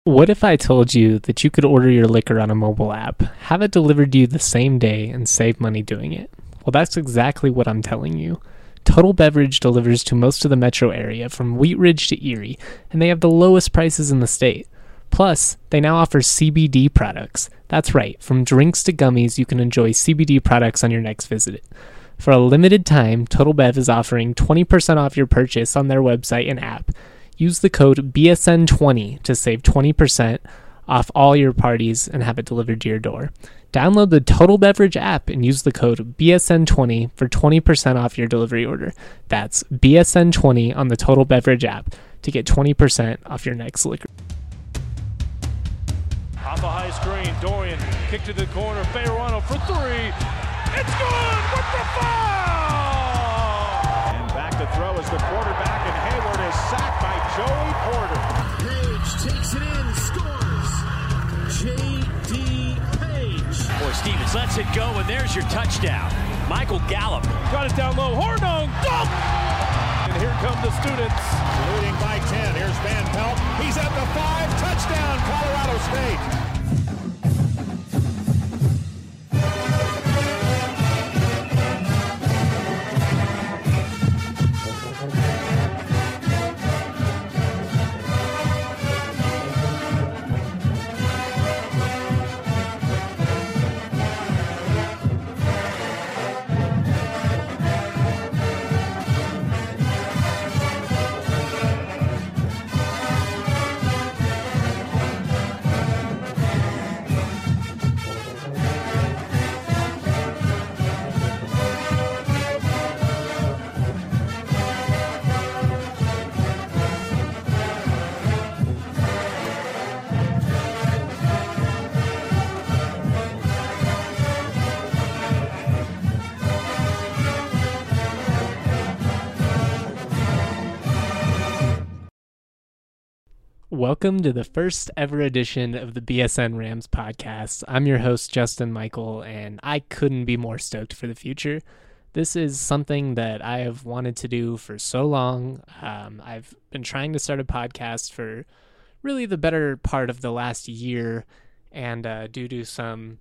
What if I told you that you could order your liquor on a mobile app, have it delivered to you the same day, and save money doing it? Well, that's exactly what I'm telling you. Total Beverage delivers to most of the metro area from Wheat Ridge to Erie, and they have the lowest prices in the state. Plus, they now offer CBD products. That's right, from drinks to gummies, you can enjoy CBD products on your next visit. For a limited time, Total Bev is offering 20% off your purchase on their website and app. Use the code BSN20 to save 20% off all your parties and have it delivered to your door. Download the Total Beverage app and use the code BSN20 for 20% off your delivery order. That's BSN20 on the Total Beverage app to get 20% off your next liquor. Off a high screen, Dorian kick to the corner, Fayerano for three. It's good with the foul! And back to throw is the quarterback, and Hayward is sacked by Joey Porter. Page takes it in, scores. J.D. Page. Boy, Stevens lets it go, and there's your touchdown. Michael Gallup. Got it down low, Hornung, dunk! And here come the students. Leading by 10, here's Van Pelt. He's at the 5, touchdown, Colorado State. Welcome to the first ever edition of the BSN Rams podcast. I'm your host, Justin Michael, and I couldn't be more stoked for the future. This is something that I have wanted to do for so long. I've been trying to start a podcast for really the better part of the last year, and due to some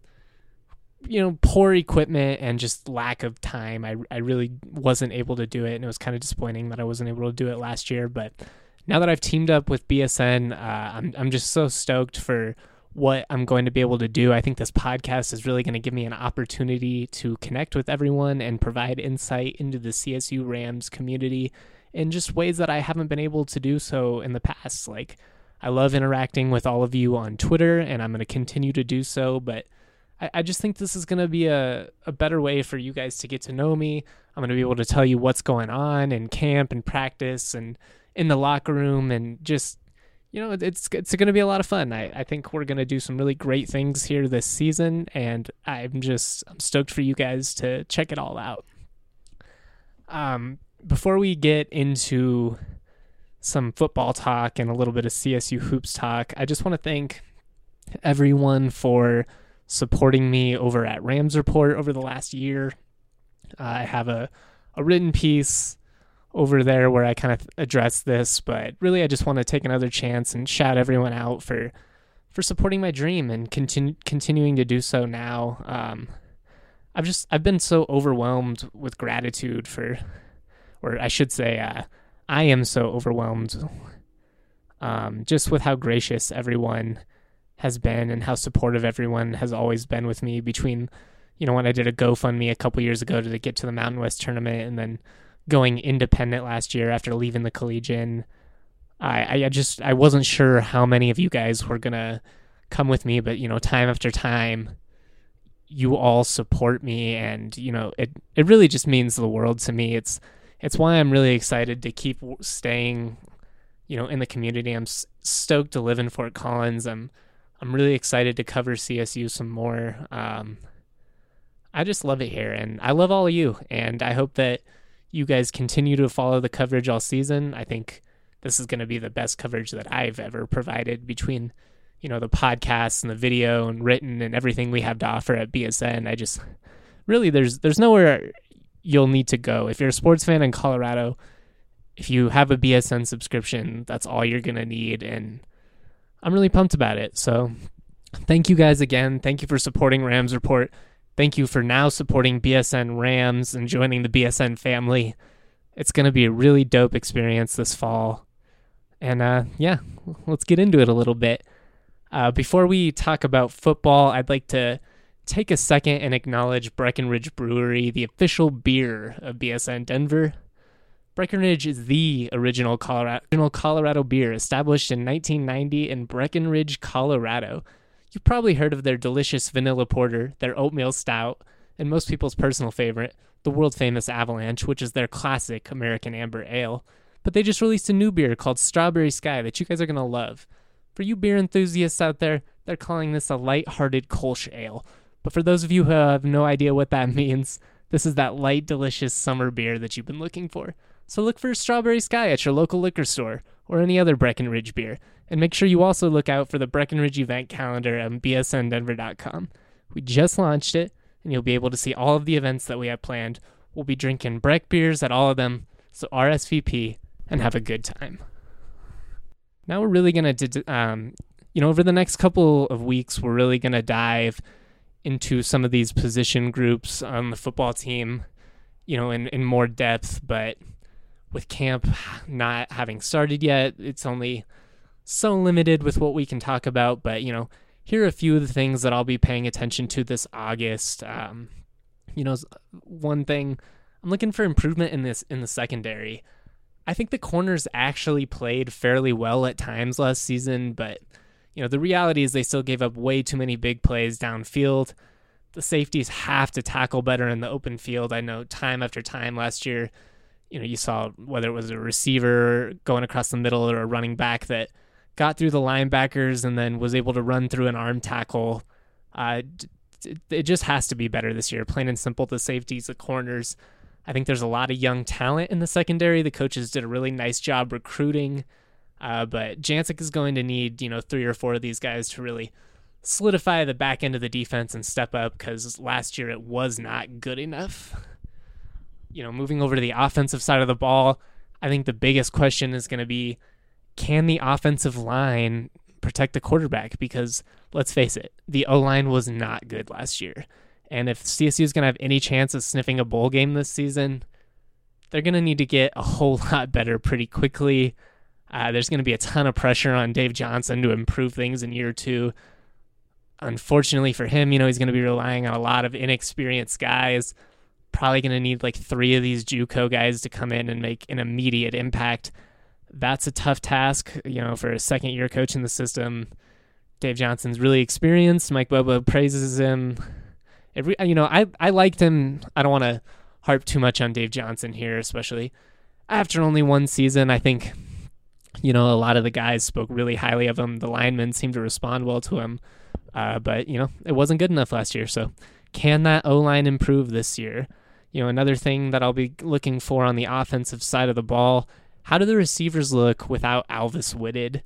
poor equipment and just lack of time, I really wasn't able to do it, and it was kind of disappointing that I wasn't able to do it last year, but now that I've teamed up with BSN, I'm just so stoked for what I'm going to be able to do. I think this podcast is really going to give me an opportunity to connect with everyone and provide insight into the CSU Rams community in just ways that I haven't been able to do so in the past. Like, I love interacting with all of you on Twitter, and I'm going to continue to do so, but I just think this is going to be a better way for you guys to get to know me. I'm going to be able to tell you what's going on in camp and practice and in the locker room, and just, it's going to be a lot of fun. I think we're going to do some really great things here this season, and I'm stoked for you guys to check it all out. Before we get into some football talk and a little bit of CSU hoops talk, I just want to thank everyone for supporting me over at Rams Report over the last year. I have a written piece over there where I kind of address this, but really I just want to take another chance and shout everyone out for supporting my dream and continuing to do so now. I've been so overwhelmed with gratitude I am so overwhelmed just with how gracious everyone has been and how supportive everyone has always been with me between, when I did a GoFundMe a couple years ago to get to the Mountain West tournament, and then going independent last year after leaving the Collegian. I wasn't sure how many of you guys were going to come with me, but, time after time, you all support me, and, it really just means the world to me. It's why I'm really excited to keep staying, in the community. I'm stoked to live in Fort Collins. I'm really excited to cover CSU some more. I just love it here, and I love all of you, and I hope that you guys continue to follow the coverage all season. I think this is going to be the best coverage that I've ever provided between, the podcasts and the video and written and everything we have to offer at BSN. There's nowhere you'll need to go. If you're a sports fan in Colorado, if you have a BSN subscription, that's all you're going to need. And I'm really pumped about it. So thank you guys again. Thank you for supporting Rams Report. Thank you for now supporting BSN Rams and joining the BSN family. It's going to be a really dope experience this fall. And let's get into it a little bit. Before we talk about football, I'd like to take a second and acknowledge Breckenridge Brewery, the official beer of BSN Denver. Breckenridge is the original Colorado beer, established in 1990 in Breckenridge, Colorado. You've probably heard of their delicious vanilla porter, their oatmeal stout, and most people's personal favorite, the world-famous Avalanche, which is their classic American Amber Ale. But they just released a new beer called Strawberry Sky that you guys are going to love. For you beer enthusiasts out there, they're calling this a light-hearted Kolsch ale. But for those of you who have no idea what that means, this is that light, delicious summer beer that you've been looking for. So look for Strawberry Sky at your local liquor store or any other Breckenridge beer. And make sure you also look out for the Breckenridge event calendar on bsndenver.com. We just launched it, and you'll be able to see all of the events that we have planned. We'll be drinking Breck beers at all of them, so RSVP and have a good time. Now we're really going to, over the next couple of weeks, we're really going to dive into some of these position groups on the football team, in more depth. But with camp not having started yet, it's only so limited with what we can talk about. But, here are a few of the things that I'll be paying attention to this August. One thing, I'm looking for improvement in the secondary. I think the corners actually played fairly well at times last season, but the reality is they still gave up way too many big plays downfield. The safeties have to tackle better in the open field. I know time after time last year, you saw whether it was a receiver going across the middle or a running back that got through the linebackers and then was able to run through an arm tackle. It just has to be better this year, plain and simple. The safeties, the corners. I think there's a lot of young talent in the secondary. The coaches did a really nice job recruiting. But Jancic is going to need, 3 or 4 of these guys to really solidify the back end of the defense and step up, because last year it was not good enough. Moving over to the offensive side of the ball, I think the biggest question is going to be, can the offensive line protect the quarterback? Because let's face it, the O-line was not good last year. And if CSU is going to have any chance of sniffing a bowl game this season, they're going to need to get a whole lot better pretty quickly. There's going to be a ton of pressure on Dave Johnson to improve things in year 2. Unfortunately for him, he's going to be relying on a lot of inexperienced guys. Probably going to need like 3 of these JUCO guys to come in and make an immediate impact. That's a tough task, for a second-year coach in the system. Dave Johnson's really experienced. Mike Bobo praises him. I liked him. I don't want to harp too much on Dave Johnson here, especially after only one season. I think, a lot of the guys spoke really highly of him. The linemen seemed to respond well to him. But it wasn't good enough last year. So can that O-line improve this year? Another thing that I'll be looking for on the offensive side of the ball, how do the receivers look without Alvis Whitted?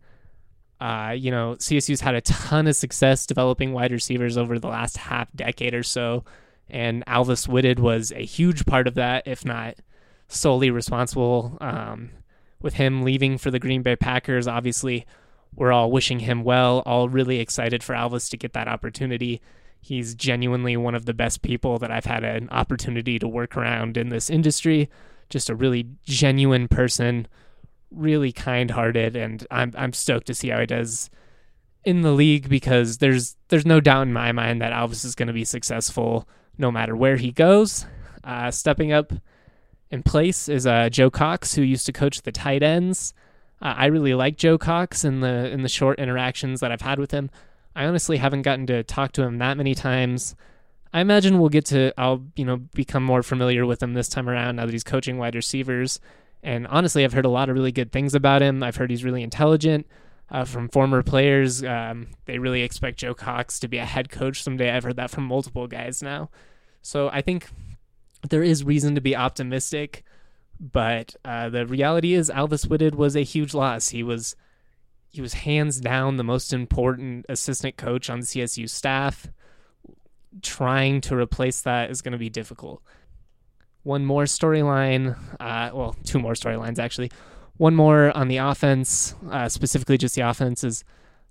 CSU's had a ton of success developing wide receivers over the last half decade or so, and Alvis Whitted was a huge part of that, if not solely responsible. With him leaving for the Green Bay Packers, obviously we're all wishing him well, all really excited for Alvis to get that opportunity. He's genuinely one of the best people that I've had an opportunity to work around in this industry. Just a really genuine person, really kind-hearted, and I'm stoked to see how he does in the league, because there's no doubt in my mind that Alvis is going to be successful no matter where he goes. Stepping up in place is Joe Cox, who used to coach the tight ends. I really like Joe Cox in the short interactions that I've had with him. I honestly haven't gotten to talk to him that many times. I imagine I'll become more familiar with him this time around now that he's coaching wide receivers. And honestly, I've heard a lot of really good things about him. I've heard he's really intelligent. From former players, they really expect Joe Cox to be a head coach someday. I've heard that from multiple guys now. So I think there is reason to be optimistic. But the reality is Alvis Whitted was a huge loss. He was hands down the most important assistant coach on the CSU staff. Trying to replace that is going to be difficult. One more storyline, 2 more storylines actually. One more on the offense, specifically just the offense, is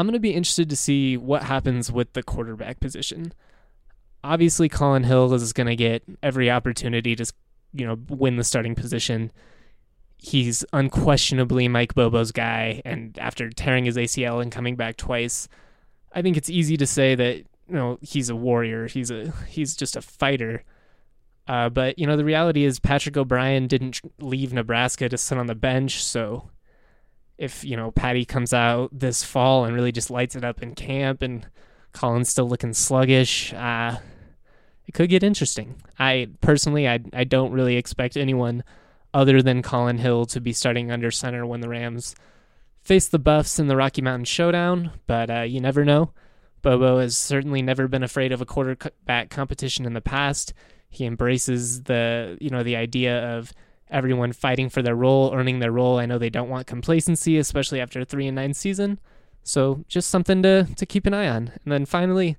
I'm going to be interested to see what happens with the quarterback position. Obviously, Colin Hill is going to get every opportunity to, win the starting position. He's unquestionably Mike Bobo's guy, and after tearing his ACL and coming back twice, I think it's easy to say that he's a warrior. He's just a fighter. But the reality is Patrick O'Brien didn't leave Nebraska to sit on the bench, so if Patty comes out this fall and really just lights it up in camp, and Colin's still looking sluggish, it could get interesting. I don't really expect anyone other than Colin Hill to be starting under center when the Rams face the Buffs in the Rocky Mountain Showdown, but you never know. Bobo has certainly never been afraid of a quarterback competition in the past. He embraces the idea of everyone fighting for their role, earning their role. I know they don't want complacency, especially after a 3-9 season. So just something to keep an eye on. And then finally,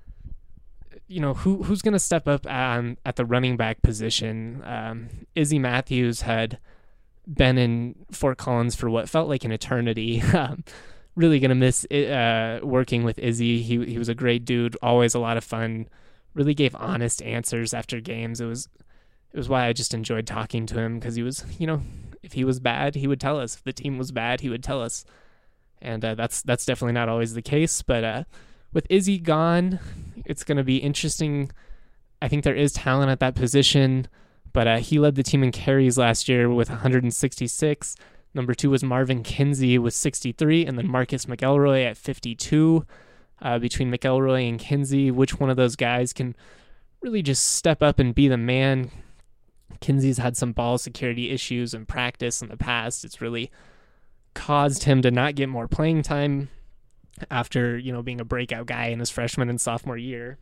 who's going to step up at the running back position? Izzy Matthews had been in Fort Collins for what felt like an eternity. Really going to miss working with Izzy. He was a great dude, always a lot of fun, really gave honest answers after games. It was why I just enjoyed talking to him, because he was, if he was bad, he would tell us. If the team was bad, he would tell us. And that's definitely not always the case. But with Izzy gone, it's going to be interesting. I think there is talent at that position, but he led the team in carries last year with 166. Number 2 was Marvin Kinsey with 63, and then Marcus McElroy at 52. Between McElroy and Kinsey, which one of those guys can really just step up and be the man? Kinsey's had some ball security issues in practice in the past. It's really caused him to not get more playing time after, being a breakout guy in his freshman and sophomore year.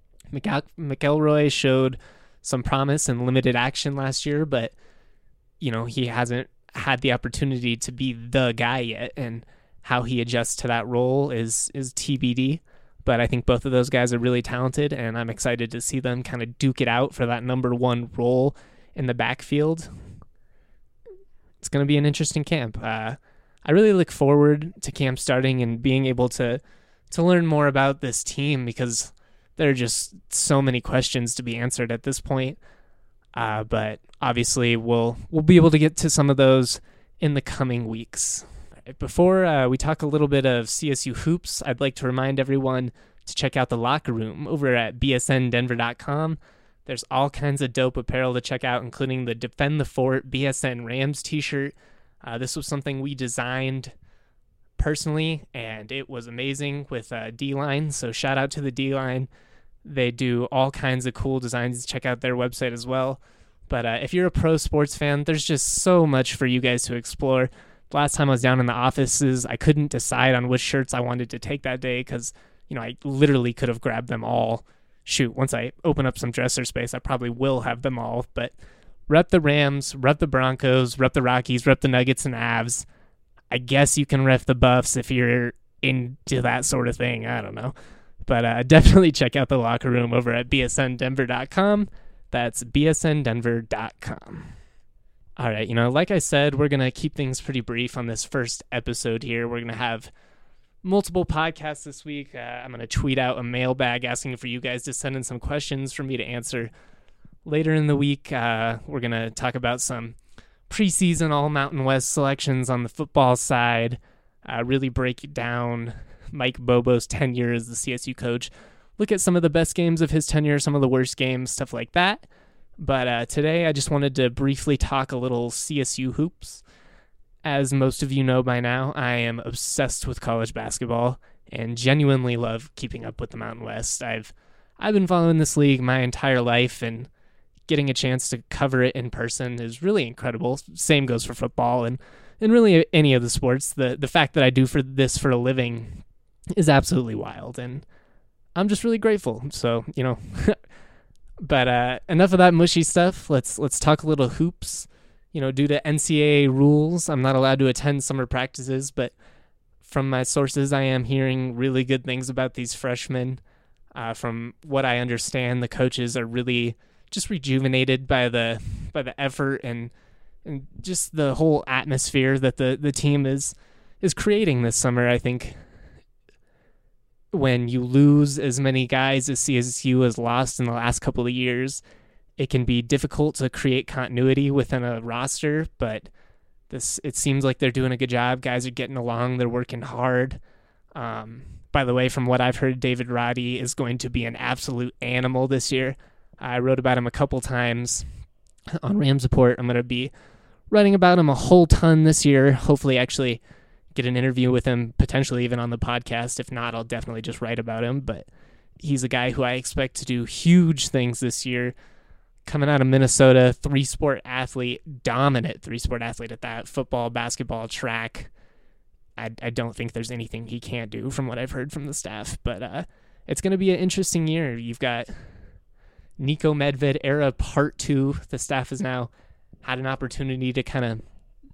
McElroy showed some promise and limited action last year, but, he hasn't had the opportunity to be the guy yet, and how he adjusts to that role is TBD. But I think both of those guys are really talented, and I'm excited to see them kind of duke it out for that number 1 role in the backfield. It's going to be an interesting camp. I really look forward to camp starting and being able to learn more about this team, because there are just so many questions to be answered at this point. But obviously we'll be able to get to some of those in the coming weeks. Before we talk a little bit of CSU hoops, I'd like to remind everyone to check out the locker room over at bsndenver.com. There's all kinds of dope apparel to check out, including the Defend the Fort BSN Rams t-shirt. This was something we designed personally, and it was amazing with D-Line, so shout out to the D-Line. They do all kinds of cool designs. Check out their website as well. But if you're a pro sports fan, there's just so much for you guys to explore. Last time I was down in the offices, I couldn't decide on which shirts I wanted to take that day, because I literally could have grabbed them all. Shoot, once I open up some dresser space, I probably will have them all. But rep the Rams, rep the Broncos, rep the Rockies, rep the Nuggets and Avs. I guess you can rep the Buffs if you're into that sort of thing. I don't know. But definitely check out the locker room over at bsndenver.com. That's bsndenver.com. All right, like I said, we're going to keep things pretty brief on this first episode here. We're going to have multiple podcasts this week. I'm going to tweet out a mailbag asking for you guys to send in some questions for me to answer. Later in the week, we're going to talk about some preseason All Mountain West selections on the football side, really break down Mike Bobo's tenure as the CSU coach, look at some of the best games of his tenure, some of the worst games, stuff like that. But today I just wanted to briefly talk a little CSU hoops. As most of you know by now, I am obsessed with college basketball and genuinely love keeping up with the Mountain West. I've been following this league my entire life, and getting a chance to cover it in person is really incredible. Same goes for football and really any of the sports. The fact that I do this for a living is absolutely wild, and I'm just really grateful. So, but enough of that mushy stuff. Let's talk a little hoops. Due to NCAA rules, I'm not allowed to attend summer practices, but from my sources, I am hearing really good things about these freshmen. From what I understand, the coaches are really just rejuvenated by the effort and just the whole atmosphere that the team is creating this summer. I think when you lose as many guys as CSU has lost in the last couple of years, it can be difficult to create continuity within a roster, but it seems like they're doing a good job. Guys are getting along. They're working hard. By the way, from what I've heard, David Roddy is going to be an absolute animal this year. I wrote about him a couple times on Rams Report. I'm going to be writing about him a whole ton this year. Hopefully actually get an interview with him, potentially even on the podcast. If not, I'll definitely just write about him. But he's a guy who I expect to do huge things this year. Coming out of Minnesota, three-sport athlete, dominant three-sport athlete at that, football, basketball, track. I don't think there's anything he can't do from what I've heard from the staff. But it's going to be an interesting year. You've got Nico Medved era part 2. The staff has now had an opportunity to kind of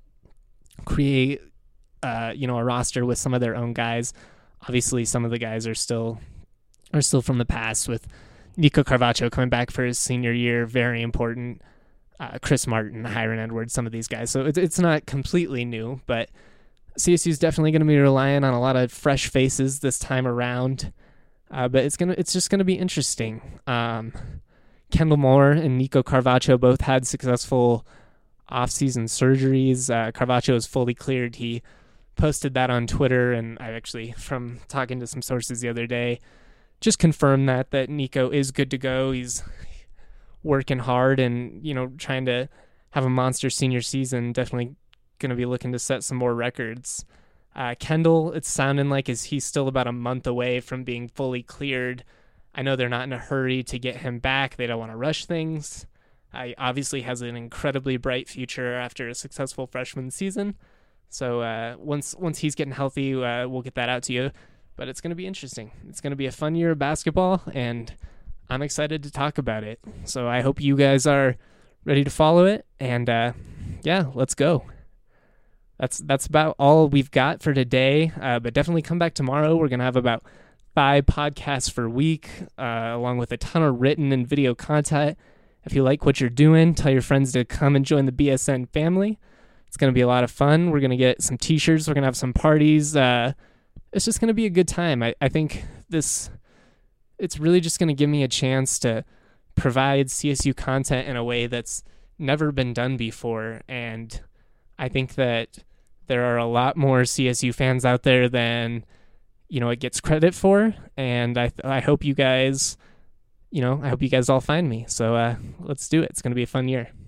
create a roster with some of their own guys. Obviously, some of the guys are still from the past, with Nico Carvacho coming back for his senior year, very important. Chris Martin, Hiron Edwards, some of these guys. So it's not completely new, but CSU is definitely going to be relying on a lot of fresh faces this time around. But it's just gonna be interesting. Kendall Moore and Nico Carvacho both had successful off-season surgeries. Carvacho is fully cleared. He posted that on Twitter, and I actually, from talking to some sources the other day, just confirmed that Nico is good to go. He's working hard and, trying to have a monster senior season. Definitely going to be looking to set some more records. Kendall, it's sounding like he's still about a month away from being fully cleared. I know they're not in a hurry to get him back. They don't want to rush things. He obviously has an incredibly bright future after a successful freshman season. So once he's getting healthy, we'll get that out to you. But it's going to be interesting. It's going to be a fun year of basketball, and I'm excited to talk about it. So I hope you guys are ready to follow it. And let's go. That's about all we've got for today. But definitely come back tomorrow. We're going to have about 5 podcasts per week, along with a ton of written and video content. If you like what you're doing, tell your friends to come and join the BSN family. It's going to be a lot of fun. We're going to get some t-shirts. We're going to have some parties. It's just going to be a good time. I think it's really just going to give me a chance to provide CSU content in a way that's never been done before. And I think that there are a lot more CSU fans out there than, it gets credit for. And I hope you guys, I hope you guys all find me. So let's do it. It's going to be a fun year.